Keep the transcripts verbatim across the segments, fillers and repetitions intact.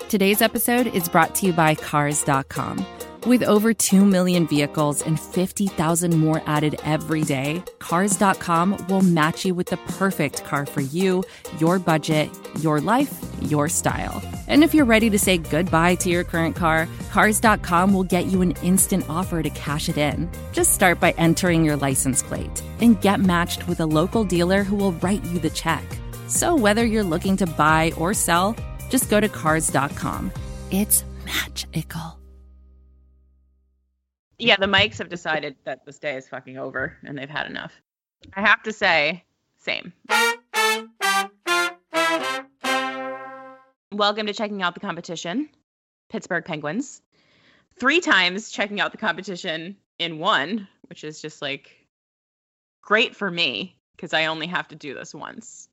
Today's episode is brought to you by Cars dot com. With over two million vehicles and fifty thousand more added every day, Cars dot com will match you with the perfect car for you, your budget, your life, your style. And if you're ready to say goodbye to your current car, Cars dot com will get you an instant offer to cash it in. Just start by entering your license plate and get matched with a local dealer who will write you the check. So whether you're looking to buy or sell, just go to Cars dot com. It's magical. Yeah, the Mikes have decided that this day is fucking over and they've had enough. I have to say, same. Welcome to Checking Out the Competition, Pittsburgh Penguins. Three times checking out the competition in one, which is just like great for me because I only have to do this once.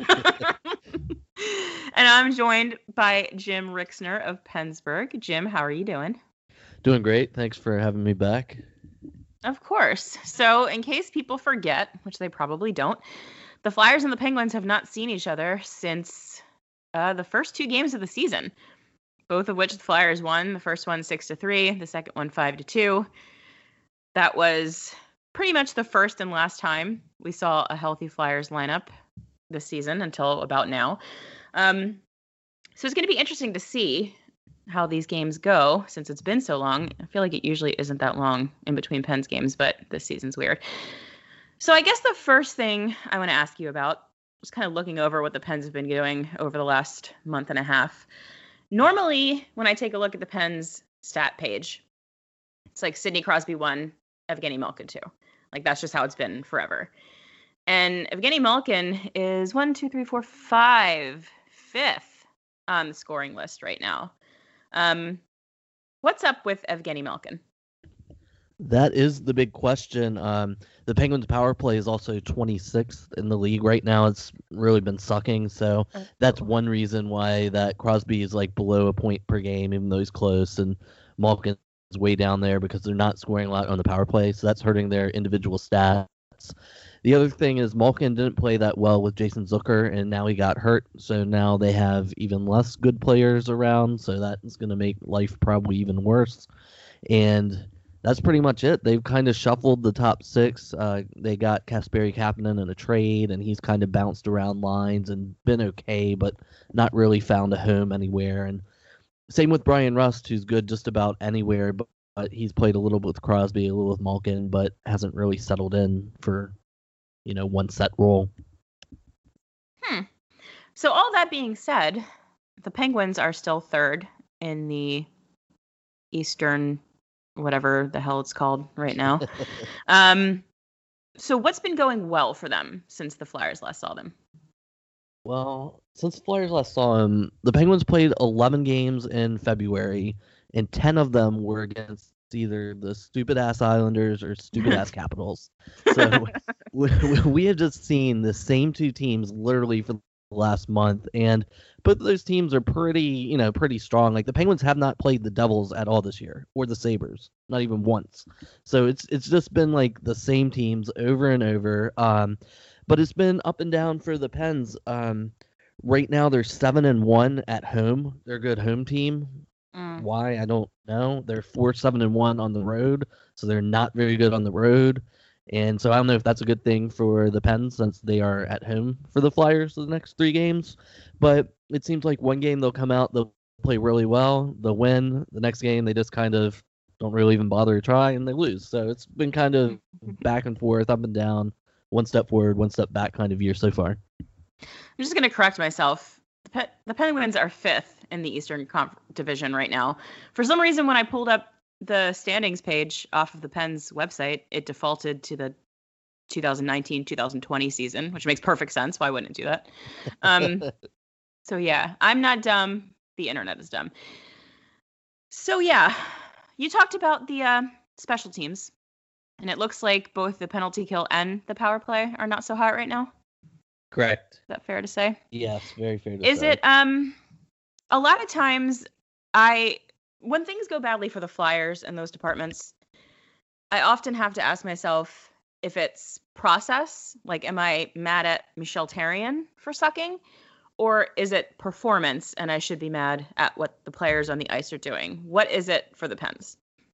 And I'm joined by Jim Rixner of Pennsburg. Jim, how are you doing? Doing great. Thanks for having me back. Of course. So in case people forget, which they probably don't, the Flyers and the Penguins have not seen each other since uh, the first two games of the season, both of which the Flyers won. The first one six to three, the second one five to two. That was pretty much the first and last time we saw a healthy Flyers lineup this season until about now. Um, so it's going to be interesting to see how these games go since it's been so long. I feel like it usually isn't that long in between Pens games, but this season's weird. So I guess the first thing I want to ask you about, just kind of looking over what the Pens have been doing over the last month and a half. Normally, when I take a look at the Pens stat page, it's like Sidney Crosby one, Evgeny Malkin two. Like that's just how it's been forever. And Evgeny Malkin is one, two, three, four, five, fifth on the scoring list right now. Um, what's up with Evgeny Malkin? That is the big question. Um, the Penguins' power play is also twenty-sixth in the league right now. It's really been sucking, so that's one reason why that Crosby is like below a point per game, even though he's close, and Malkin's way down there because they're not scoring a lot on the power play, so that's hurting their individual stats. The other thing is Malkin didn't play that well with Jason Zucker, and now he got hurt, so now they have even less good players around, so that's going to make life probably even worse. And that's pretty much it. They've kind of shuffled the top six. Uh, they got Kasperi Kapanen in a trade, and he's kind of bounced around lines and been okay, but not really found a home anywhere. And same with Brian Rust, who's good just about anywhere, but, but he's played a little bit with Crosby, a little with Malkin, but hasn't really settled in for you know, one set role. Hmm. So all that being said, the Penguins are still third in the Eastern, whatever the hell it's called right now. um, so what's been going well for them since the Flyers last saw them? Well, since the Flyers last saw them, the Penguins played eleven games in February, and ten of them were against either the stupid-ass Islanders or stupid-ass Capitals. So we, we have just seen the same two teams literally for the last month, and both of those teams are pretty, you know, pretty strong. Like the Penguins have not played the Devils at all this year, or the Sabres, not even once. So it's it's just been like the same teams over and over. Um, but it's been up and down for the Pens. Um, right now they're seven and one at home. They're a good home team. Mm. Why, I don't know. They're four, seven, and one on the road, so they're not very good on the road. And so I don't know if that's a good thing for the Pens since they are at home for the Flyers for the next three games. But it seems like one game they'll come out, they'll play really well, they'll win. The next game they just kind of don't really even bother to try, and they lose. So it's been kind of back and forth, up and down, one step forward, one step back kind of year so far. I'm just going to correct myself. The, Pe- the Penguins are fifth in the Eastern Conf- Division right now. For some reason, when I pulled up the standings page off of the Pens website, it defaulted to the twenty nineteen twenty twenty season, which makes perfect sense. Why wouldn't it do that? Um, so yeah, I'm not dumb. The internet is dumb. So yeah, you talked about the uh, special teams, and it looks like both the penalty kill and the power play are not so hot right now. Correct. Is that fair to say? Yes, very fair to Is say. Is it, um, a lot of times I, when things go badly for the Flyers in those departments, I often have to ask myself if it's process, like, am I mad at Michel Therrien for sucking? Or is it performance and I should be mad at what the players on the ice are doing? What is it for the Pens?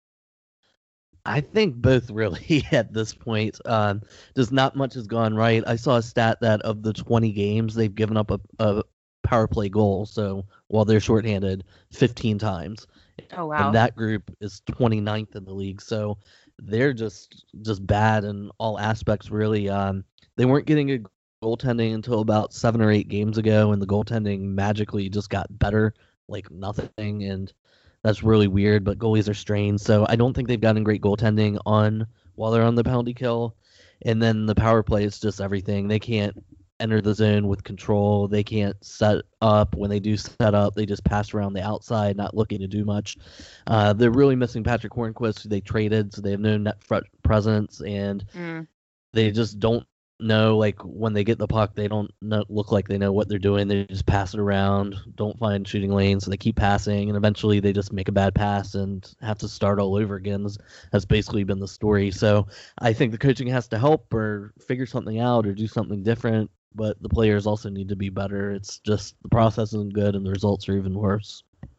I think both really at this point. Um, just not much has gone right. I saw a stat that of the twenty games, they've given up a, a power play goal. So while they're shorthanded, fifteen times. Oh, wow. And that group is twenty-ninth in the league. So they're just just bad in all aspects, really. Um, they weren't getting a goaltending until about seven or eight games ago, and the goaltending magically just got better, like nothing. And that's really weird, but goalies are strained, so I don't think they've gotten great goaltending on while they're on the penalty kill. And then the power play is just everything. They can't enter the zone with control. They can't set up. When they do set up, they just pass around the outside, not looking to do much. Uh, they're really missing Patrick Hornquist, who they traded, so they have no net front presence, and Mm. they just don't know, like, when they get the puck, they don't know, look like they know what they're doing. They just pass it around, don't find shooting lanes, so they keep passing, and eventually they just make a bad pass and have to start all over again. That's, that's basically been the story. So I think the coaching has to help or figure something out or do something different, but the players also need to be better. It's just the process isn't good and the results are even worse.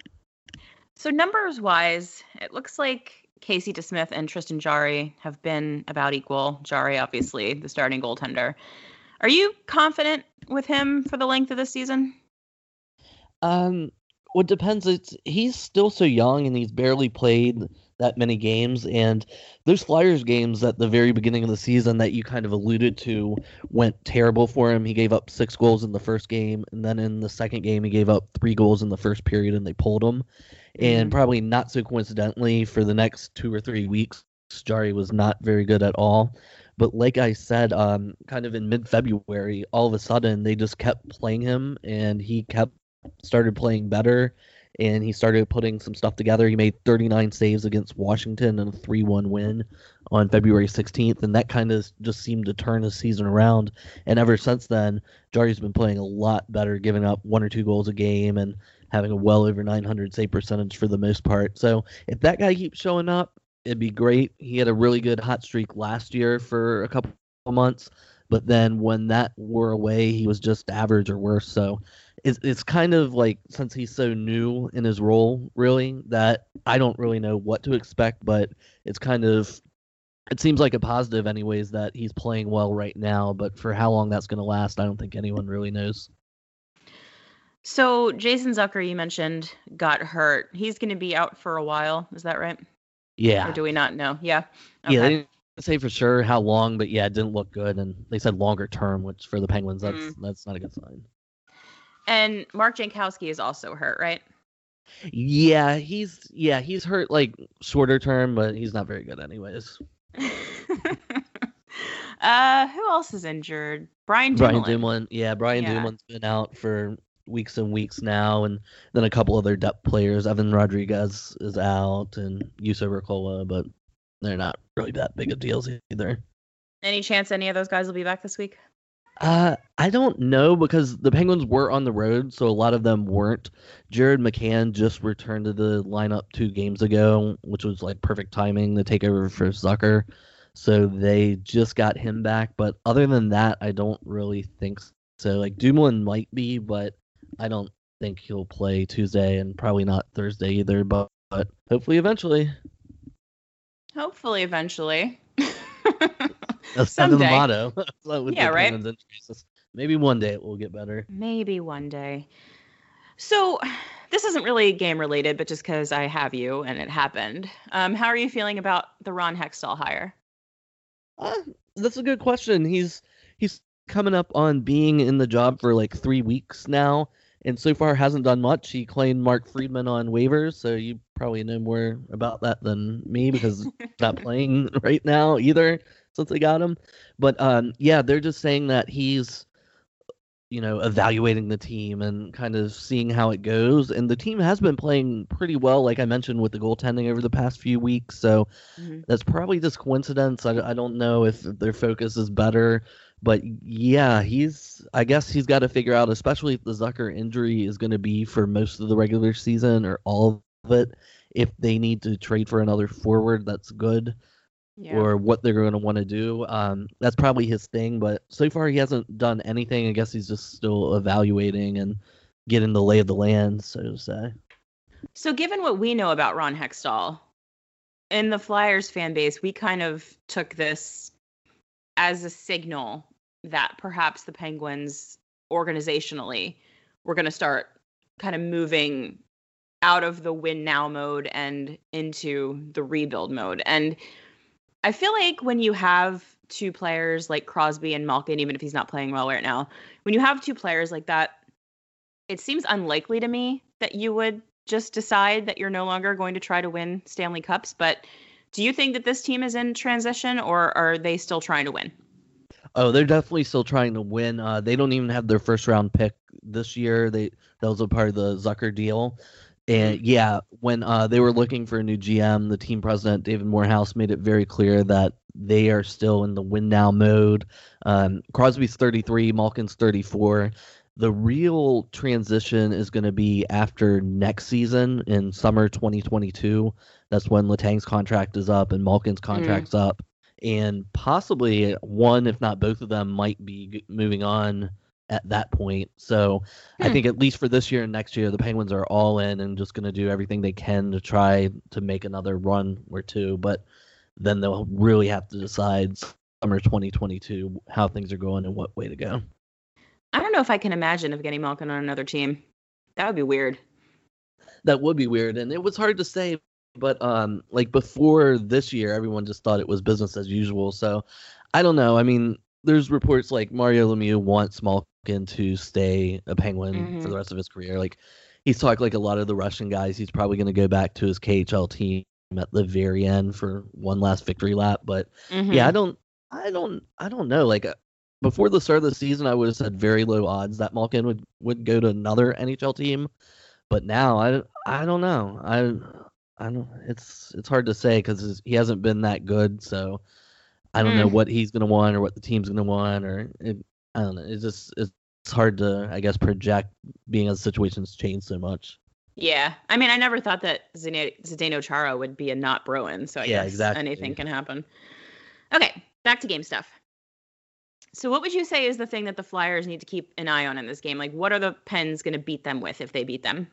So numbers-wise, it looks like Casey DeSmith and Tristan Jarry have been about equal. Jarry, obviously, the starting goaltender. Are you confident with him for the length of the season? Um, well, it depends. It's he's still so young and he's barely played that many games. And those Flyers games at the very beginning of the season that you kind of alluded to went terrible for him. He gave up six goals in the first game, and then in the second game he gave up three goals in the first period, and they pulled him. And probably not so coincidentally, for the next two or three weeks, Jarry was not very good at all. But like I said, um, kind of in mid-February, all of a sudden, they just kept playing him, and he kept started playing better, and he started putting some stuff together. He made thirty-nine saves against Washington in a three one win on February sixteenth, and that kind of just seemed to turn his season around. And ever since then, Jarry's been playing a lot better, giving up one or two goals a game, and having a well over nine hundred save percentage for the most part. So if that guy keeps showing up, it'd be great. He had a really good hot streak last year for a couple of months, but then when that wore away, he was just average or worse. So it's, it's kind of like, since he's so new in his role, really, that I don't really know what to expect, but it's kind of, it seems like a positive anyways that he's playing well right now, but for how long that's going to last, I don't think anyone really knows. So Jason Zucker, you mentioned, got hurt. He's going to be out for a while. Is that right? Yeah. Or do we not know? Yeah. Okay. Yeah, they didn't say for sure how long, but yeah, it didn't look good. And they said longer term, which for the Penguins, that's mm. that's not a good sign. And Mark Jankowski is also hurt, right? Yeah, he's yeah he's hurt like shorter term, but he's not very good anyways. uh, who else is injured? Brian Dumoulin. Brian Dumoulin. Yeah, Brian yeah. Dumoulin's been out for weeks and weeks now, and then a couple other depth players. Evan Rodriguez is out, and Juuso Ricola, but they're not really that big of deals either. Any chance any of those guys will be back this week? Uh, I don't know, because the Penguins were on the road, so a lot of them weren't. Jared McCann just returned to the lineup two games ago, which was like perfect timing to take over for Zucker. So they just got him back, but other than that, I don't really think so. Like Dumoulin might be, but I don't think he'll play Tuesday, and probably not Thursday either, but, but hopefully eventually. Hopefully eventually. That's kind of the motto. Yeah, right? Maybe one day it will get better. Maybe one day. So this isn't really game related, but just because I have you and it happened. Um, how are you feeling about the Ron Hextall hire? Uh, that's a good question. He's he's coming up on being in the job for like three weeks now, and so far hasn't done much. He claimed Mark Friedman on waivers, so you probably know more about that than me, because he's not playing right now either since they got him. But um, yeah, they're just saying that he's, you know, evaluating the team and kind of seeing how it goes. And the team has been playing pretty well, like I mentioned, with the goaltending over the past few weeks. So mm-hmm. that's probably just coincidence. I, I don't know if their focus is better. But yeah, he's, I guess he's got to figure out, especially if the Zucker injury is going to be for most of the regular season or all of it, if they need to trade for another forward, that's good. Yeah. or what they're going to want to do. Um, that's probably his thing, but so far he hasn't done anything. I guess he's just still evaluating and getting the lay of the land, so to say. So given what we know about Ron Hextall, in the Flyers fan base, we kind of took this as a signal that perhaps the Penguins organizationally were going to start kind of moving out of the win now mode and into the rebuild mode. And I feel like when you have two players like Crosby and Malkin, even if he's not playing well right now, when you have two players like that, it seems unlikely to me that you would just decide that you're no longer going to try to win Stanley Cups. But do you think that this team is in transition, or are they still trying to win? Oh, they're definitely still trying to win. Uh, they don't even have their first round pick this year. They that was a part of the Zucker deal. And yeah, when uh, they were looking for a new G M, the team president, David Morehouse, made it very clear that they are still in the win now mode. Um, Crosby's thirty-three, Malkin's thirty-four. The real transition is going to be after next season in summer twenty twenty-two. That's when Letang's contract is up and Malkin's contract's mm. up. And possibly one, if not both of them, might be moving on at that point. So hmm. I think at least for this year and next year, the Penguins are all in and just going to do everything they can to try to make another run or two. But then they'll really have to decide summer twenty twenty-two how things are going and what way to go. I don't know if I can imagine of getting Malkin on another team. That would be weird. That would be weird. And it was hard to say. But um, like before this year, everyone just thought it was business as usual. So I don't know. I mean, there's reports like Mario Lemieux wants Malkin to stay a Penguin mm-hmm. for the rest of his career. Like he's talked like a lot of the Russian guys. He's probably going to go back to his K H L team at the very end for one last victory lap. But mm-hmm. yeah, I don't, I don't, I don't know. Like before the start of the season, I would have said very low odds that Malkin would would go to another N H L team. But now I, I don't know. I. I don't. It's it's hard to say because he hasn't been that good. So I don't mm. know what he's gonna want or what the team's gonna want, or it, I don't know. It's just it's hard to I guess project being as situations change so much. Yeah, I mean, I never thought that Zdeno Chara would be a not Bruin. So I yeah, guess exactly. anything can happen. Okay, back to game stuff. So what would you say is the thing that the Flyers need to keep an eye on in this game? Like, what are the Pens gonna beat them with if they beat them?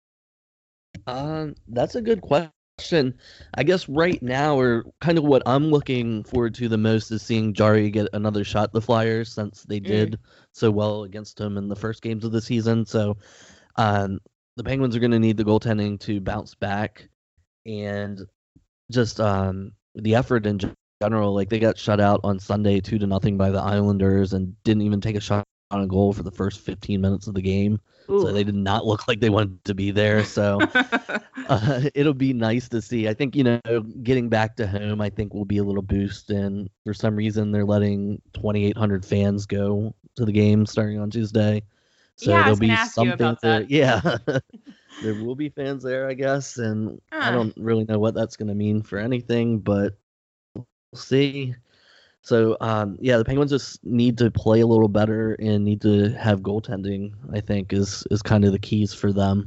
Um, that's a good question. I guess right now, or kind of what I'm looking forward to the most is seeing Jarry get another shot at the Flyers since they did mm. so well against him in the first games of the season. So um, the Penguins are going to need the goaltending to bounce back and just um, the effort in general. Like they got shut out on Sunday two to nothing by the Islanders and didn't even take a shot on a goal for the first fifteen minutes of the game. Ooh. So they did not look like they wanted to be there. So uh, it'll be nice to see. I think, you know, getting back to home, I think will be a little boost. And for some reason, they're letting twenty-eight hundred fans go to the game starting on Tuesday. So yeah, there'll be something about to, that. yeah, there will be fans there, I guess. And uh. I don't really know what that's going to mean for anything, but we'll see. So, um, yeah, the Penguins just need to play a little better and need to have goaltending, I think, is, is kind of the keys for them.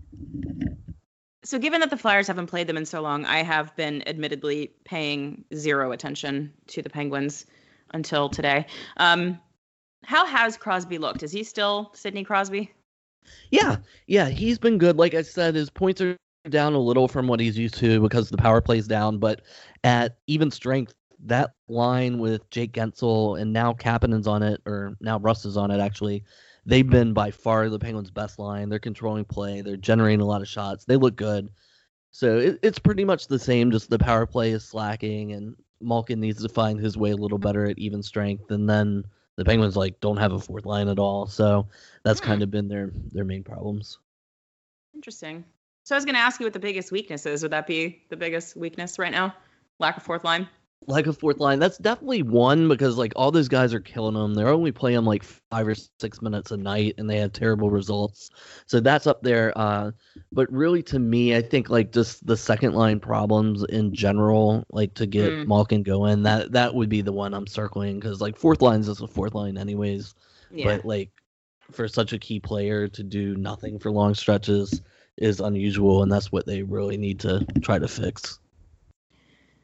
So given that the Flyers haven't played them in so long, I have been admittedly paying zero attention to the Penguins until today. Um, how has Crosby looked? Is he still Sidney Crosby? Yeah, yeah, he's been good. Like I said, his points are down a little from what he's used to because the power play's down, but at even strength, that line with Jake Gensel and now Kapanen's on it, or now Russ is on it, actually, they've been by far the Penguins' best line. They're controlling play. They're generating a lot of shots. They look good. So it, it's pretty much the same, just the power play is slacking, and Malkin needs to find his way a little better at even strength. And then the Penguins, like, don't have a fourth line at all. So that's kind of been their, their main problems. Interesting. So I was going to ask you what the biggest weakness is. Would that be the biggest weakness right now? Lack of fourth line? Like a fourth line, that's definitely one because like all those guys are killing them. They're only playing like five or six minutes a night, and they have terrible results. So that's up there. Uh, but really, to me, I think like just the second line problems in general, like to get mm. Malkin going, that that would be the one I'm circling because like fourth line is just a fourth line anyways. Yeah. But like for such a key player to do nothing for long stretches is unusual, and that's what they really need to try to fix.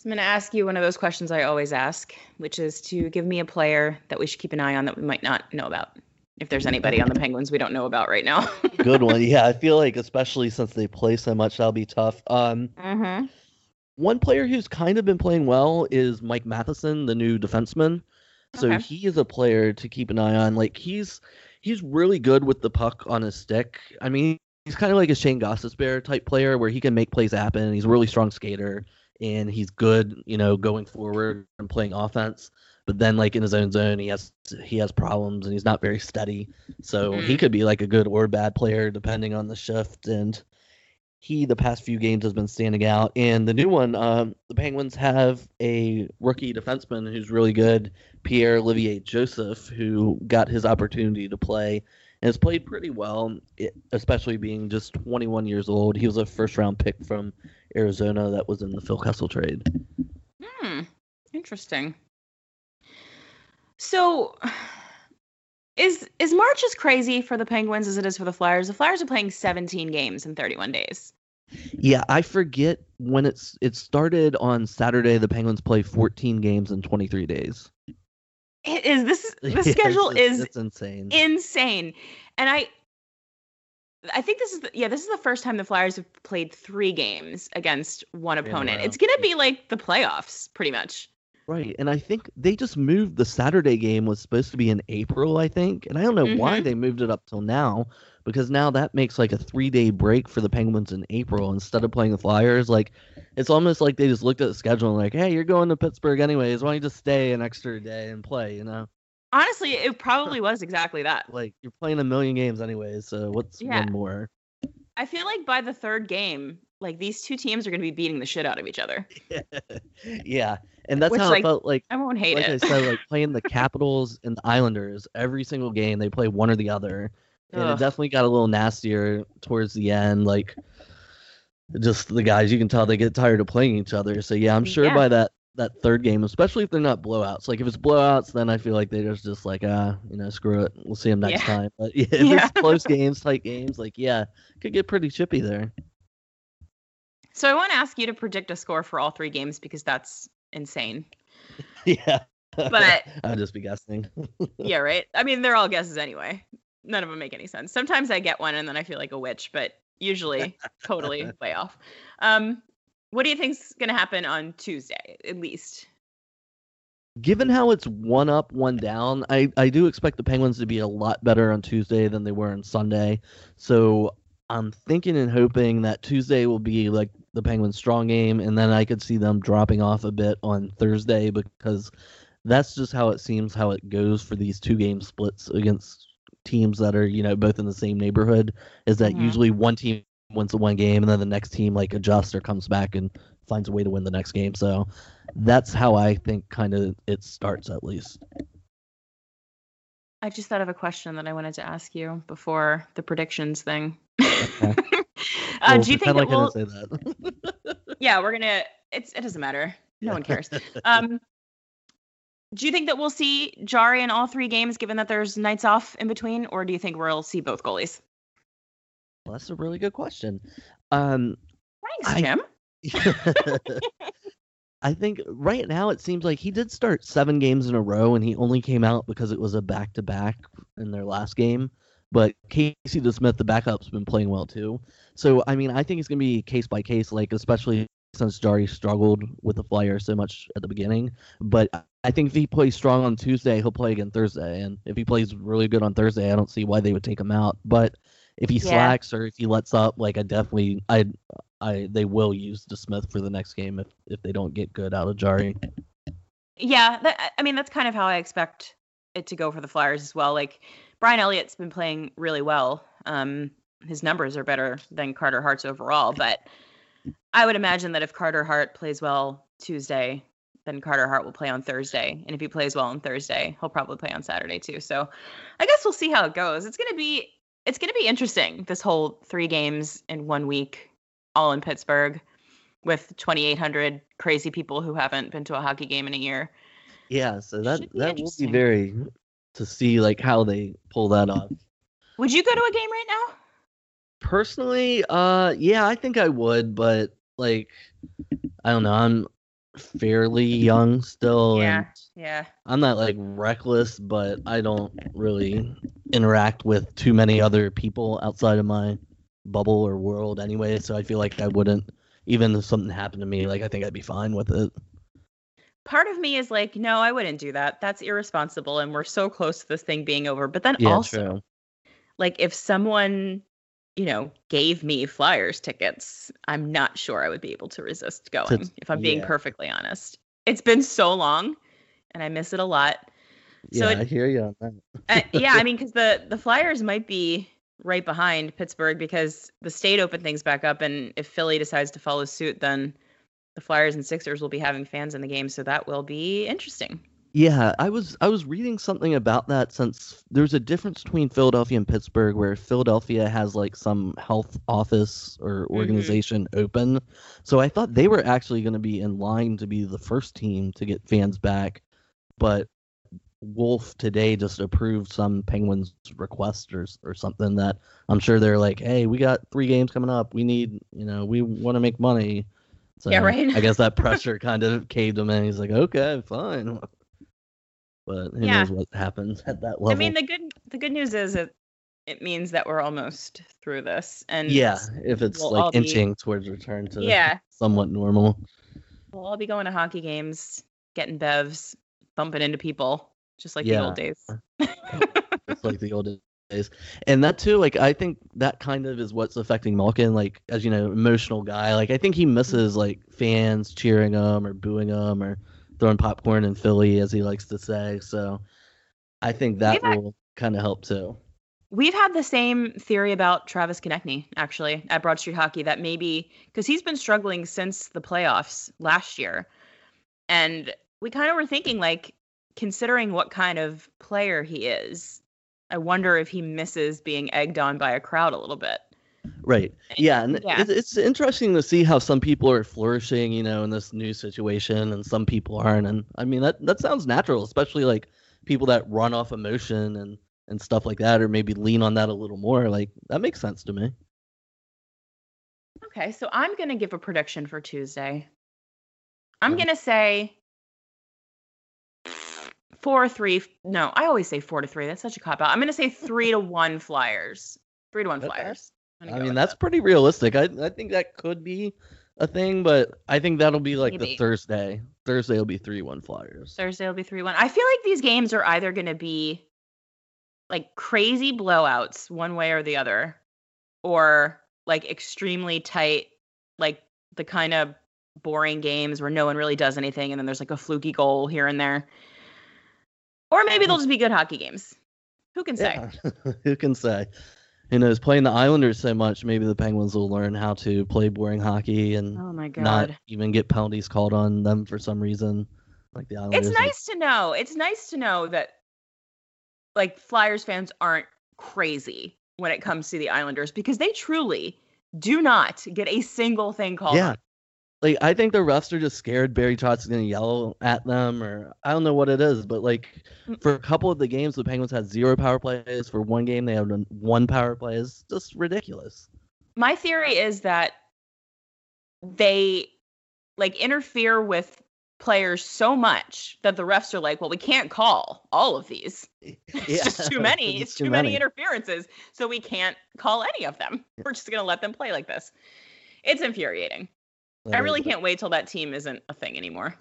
So I'm going to ask you one of those questions I always ask, which is to give me a player that we should keep an eye on that we might not know about. If there's anybody on the Penguins we don't know about right now. Good one. Yeah, I feel like especially since they play so much, that'll be tough. Um, mm-hmm. One player who's kind of been playing well is Mike Matheson, the new defenseman. So Okay. he is a player to keep an eye on. Like he's he's really good with the puck on his stick. I mean, he's kind of like a Shane Gostisbehere type player where he can make plays happen. He's a really strong skater and he's good, you know, going forward and playing offense. But then like in his own zone, he has he has problems and he's not very steady. So Mm. he could be like a good or bad player depending on the shift. And he, the past few games, has been standing out. And the new one, um, the Penguins have a rookie defenseman who's really good, Pierre-Olivier Joseph, who got his opportunity to play and has played pretty well, it, especially being just twenty-one years old. He was a first-round pick from Arizona that was in the Phil Kessel trade. Hmm. Interesting. So, is is March as crazy for the Penguins as it is for the Flyers? The Flyers are playing seventeen games in thirty-one days. Yeah, I forget when it's it started on Saturday. The Penguins play fourteen games in twenty-three days. It is this the Yeah, schedule it's, is it's insane. insane, and I I think this is the, yeah this is the first time the Flyers have played three games against one In a opponent. row. It's gonna be like the playoffs, pretty much. Right, and I think they just moved the Saturday game was supposed to be in April, I think, and I don't know why Mhm. they moved it up till now, because now that makes like a three-day break for the Penguins in April instead of playing the Flyers. Like, it's almost like they just looked at the schedule and like, hey, you're going to Pittsburgh anyways, why don't you just stay an extra day and play, you know? Honestly, it probably was exactly that. Like, you're playing a million games anyways, so what's Yeah. one more? I feel like by the third game, like these two teams are gonna be beating the shit out of each other. Yeah, and that's Which, how like, it felt like. I won't hate Like I it. said, like playing the Capitals and the Islanders, every single game they play one or the other, and it Ugh. definitely got a little nastier towards the end. Like, just the guys, you can tell they get tired of playing each other. So yeah, I'm sure Yeah. by that that third game, especially if they're not blowouts. Like if it's blowouts, then I feel like they just just like ah, you know, screw it, we'll see them next Yeah. time. But yeah, if Yeah. it's close games, tight games, like yeah, it could get pretty chippy there. So I want to ask you to predict a score for all three games because that's insane. Yeah, But- I'll just be guessing. Yeah, right? I mean, they're all guesses anyway. None of them make any sense. Sometimes I get one and then I feel like a witch, but usually totally way off. Um, what do you think's going to happen on Tuesday, at least? Given how it's one up, one down, I, I do expect the Penguins to be a lot better on Tuesday than they were on Sunday. So I'm thinking and hoping that Tuesday will be like the Penguins' strong game, and then I could see them dropping off a bit on Thursday because that's just how it seems how it goes for these two game splits against teams that are, you know, both in the same neighborhood, is that Mhm. usually one team wins the one game and then the next team like adjusts or comes back and finds a way to win the next game. So that's how I think kind of it starts at least. I just thought of a question that I wanted to ask you before the predictions thing. Okay. uh, Well, do you think pretend that like I we'll? didn't say that? Yeah, we're gonna. It's it doesn't matter. No Yeah. one cares. Um, do you think that we'll see Jari in all three games, given that there's nights off in between, or do you think we'll see both goalies? Well, that's a really good question. Um, Thanks, I- Jim. I think right now it seems like he did start seven games in a row, and he only came out because it was a back-to-back in their last game. But Casey DeSmith, the backup's been playing well too. So I mean, I think it's gonna be case by case, like especially since Jari struggled with the Flyers so much at the beginning. But I think if he plays strong on Tuesday, he'll play again Thursday, and if he plays really good on Thursday, I don't see why they would take him out. But if he Yeah. slacks or if he lets up, like I definitely, I, I, they will use DeSmith for the next game if if they don't get good out of Jari. Yeah, that, I mean that's kind of how I expect it to go for the Flyers as well. Like Brian Elliott's been playing really well. Um, his numbers are better than Carter Hart's overall, but I would imagine that if Carter Hart plays well Tuesday, then Carter Hart will play on Thursday, and if he plays well on Thursday, he'll probably play on Saturday too. So I guess we'll see how it goes. It's gonna be it's gonna be interesting. This whole three games in one week, all in Pittsburgh, with twenty-eight hundred crazy people who haven't been to a hockey game in a year. Yeah, so that Should be that will be interesting. very to see like how they pull that off. Would you go to a game right now? Personally, uh, yeah, I think I would, but like, I don't know. I'm fairly young still, Yeah, and yeah. I'm not like reckless, but I don't really interact with too many other people outside of my bubble or world anyway. So I feel like I wouldn't, even if something happened to me, like I think I'd be fine with it. Part of me is like, no, I wouldn't do that. That's irresponsible, and we're so close to this thing being over. But then Yeah, also, true. like, if someone, you know, gave me Flyers tickets, I'm not sure I would be able to resist To, going, if I'm being yeah, perfectly honest. It's been so long, and I miss it a lot. So yeah, I it, hear you on that. uh, yeah, I mean, because the the Flyers might be right behind Pittsburgh because the state opened things back up, and if Philly decides to follow suit, then the Flyers and Sixers will be having fans in the game, so that will be interesting. Yeah, I was I was reading something about that since there's a difference between Philadelphia and Pittsburgh where Philadelphia has like some health office or Mm-hmm. organization open. So I thought they were actually going to be in line to be the first team to get fans back, but Wolf today just approved some Penguins request or, or something that I'm sure they're like, "Hey, we got three games coming up. We need, you know, we want to make money." Yeah, So right. I guess that pressure kind of caved him in. He's like, "Okay, fine." But who Yeah. knows what happens at that I level. mean, the good the good news is it it means that we're almost through this, and Yeah, if it's we'll like all be inching towards return to yeah, somewhat normal, we'll all be going to hockey games, getting bevs, bumping into people, just like the old yeah, days. it's like the old days. And that too, like I think that kind of is what's affecting Malkin, like as you know, emotional guy. Like I think he misses like fans cheering him or booing him or throwing popcorn in Philly, as he likes to say. So I think We've that will kind of help too. We've had the same theory about Travis Konechny, actually, at Broad Street Hockey, that maybe because he's been struggling since the playoffs last year. And we kind of were thinking, like, considering what kind of player he is, I wonder if he misses being egged on by a crowd a little bit. Right. Yeah, and Yeah. it's it's interesting to see how some people are flourishing, you know, in this new situation, and some people aren't. And I mean that that sounds natural, especially like people that run off emotion and and stuff like that, or maybe lean on that a little more. Like that makes sense to me. Okay, so I'm going to give a prediction for Tuesday. I'm Um, going to say four three. No, I always say four to three. That's such a cop out. I'm going to say three to one Flyers. Three to one okay. Flyers. I'm I gonna go mean with that's that. pretty realistic. I I think that could be a thing, but I think that'll be like the Maybe. Thursday. Thursday will be three one Flyers. Thursday will be three one. I feel like these games are either going to be like crazy blowouts one way or the other, or like extremely tight, like the kind of boring games where no one really does anything and then there's like a fluky goal here and there. Or maybe they'll just be good hockey games. Who can say? Yeah, who can say? Who knows? Playing the Islanders so much, maybe the Penguins will learn how to play boring hockey and Oh my not God. even get penalties called on them for some reason, like the It's Islanders. Like, nice to know. It's nice to know that like Flyers fans aren't crazy when it comes to the Islanders because they truly do not get a single thing called yeah, on. like I think the refs are just scared Barry Trotz is gonna yell at them, or I don't know what it is, but like Mm. for a couple of the games, the Penguins had zero power plays. For one game, they had one power play. It's just ridiculous. My theory is that they like interfere with players so much that the refs are like, well, we can't call all of these. It's Yeah, just too many. 'cause It's too many interferences. So we can't call any of them. We're just going to let them play like this. It's infuriating. That I is really it. can't wait till that team isn't a thing anymore.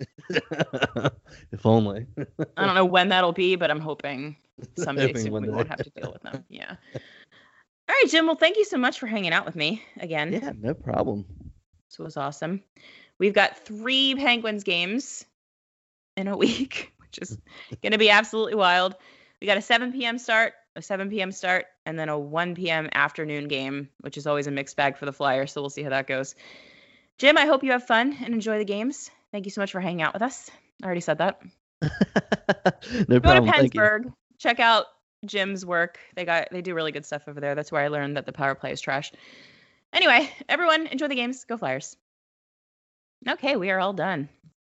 If only. I don't know when that'll be, but I'm hoping someday Hoping soon one we day. won't have to deal with them. Yeah. All right, Jim. Well, thank you so much for hanging out with me again. Yeah, no problem. This was awesome. We've got three Penguins games in a week, which is going to be absolutely wild. We got a seven p.m. start, a seven p.m. start, and then a one p.m. afternoon game, which is always a mixed bag for the Flyers. So we'll see how that goes. Jim, I hope you have fun and enjoy the games. Thank you so much for hanging out with us. I already said that. No Go to problem. Thank you. Pennsburg. Check out Jim's work. They got they do really good stuff over there. That's where I learned that the power play is trash. Anyway, everyone, enjoy the games. Go Flyers. Okay, we are all done.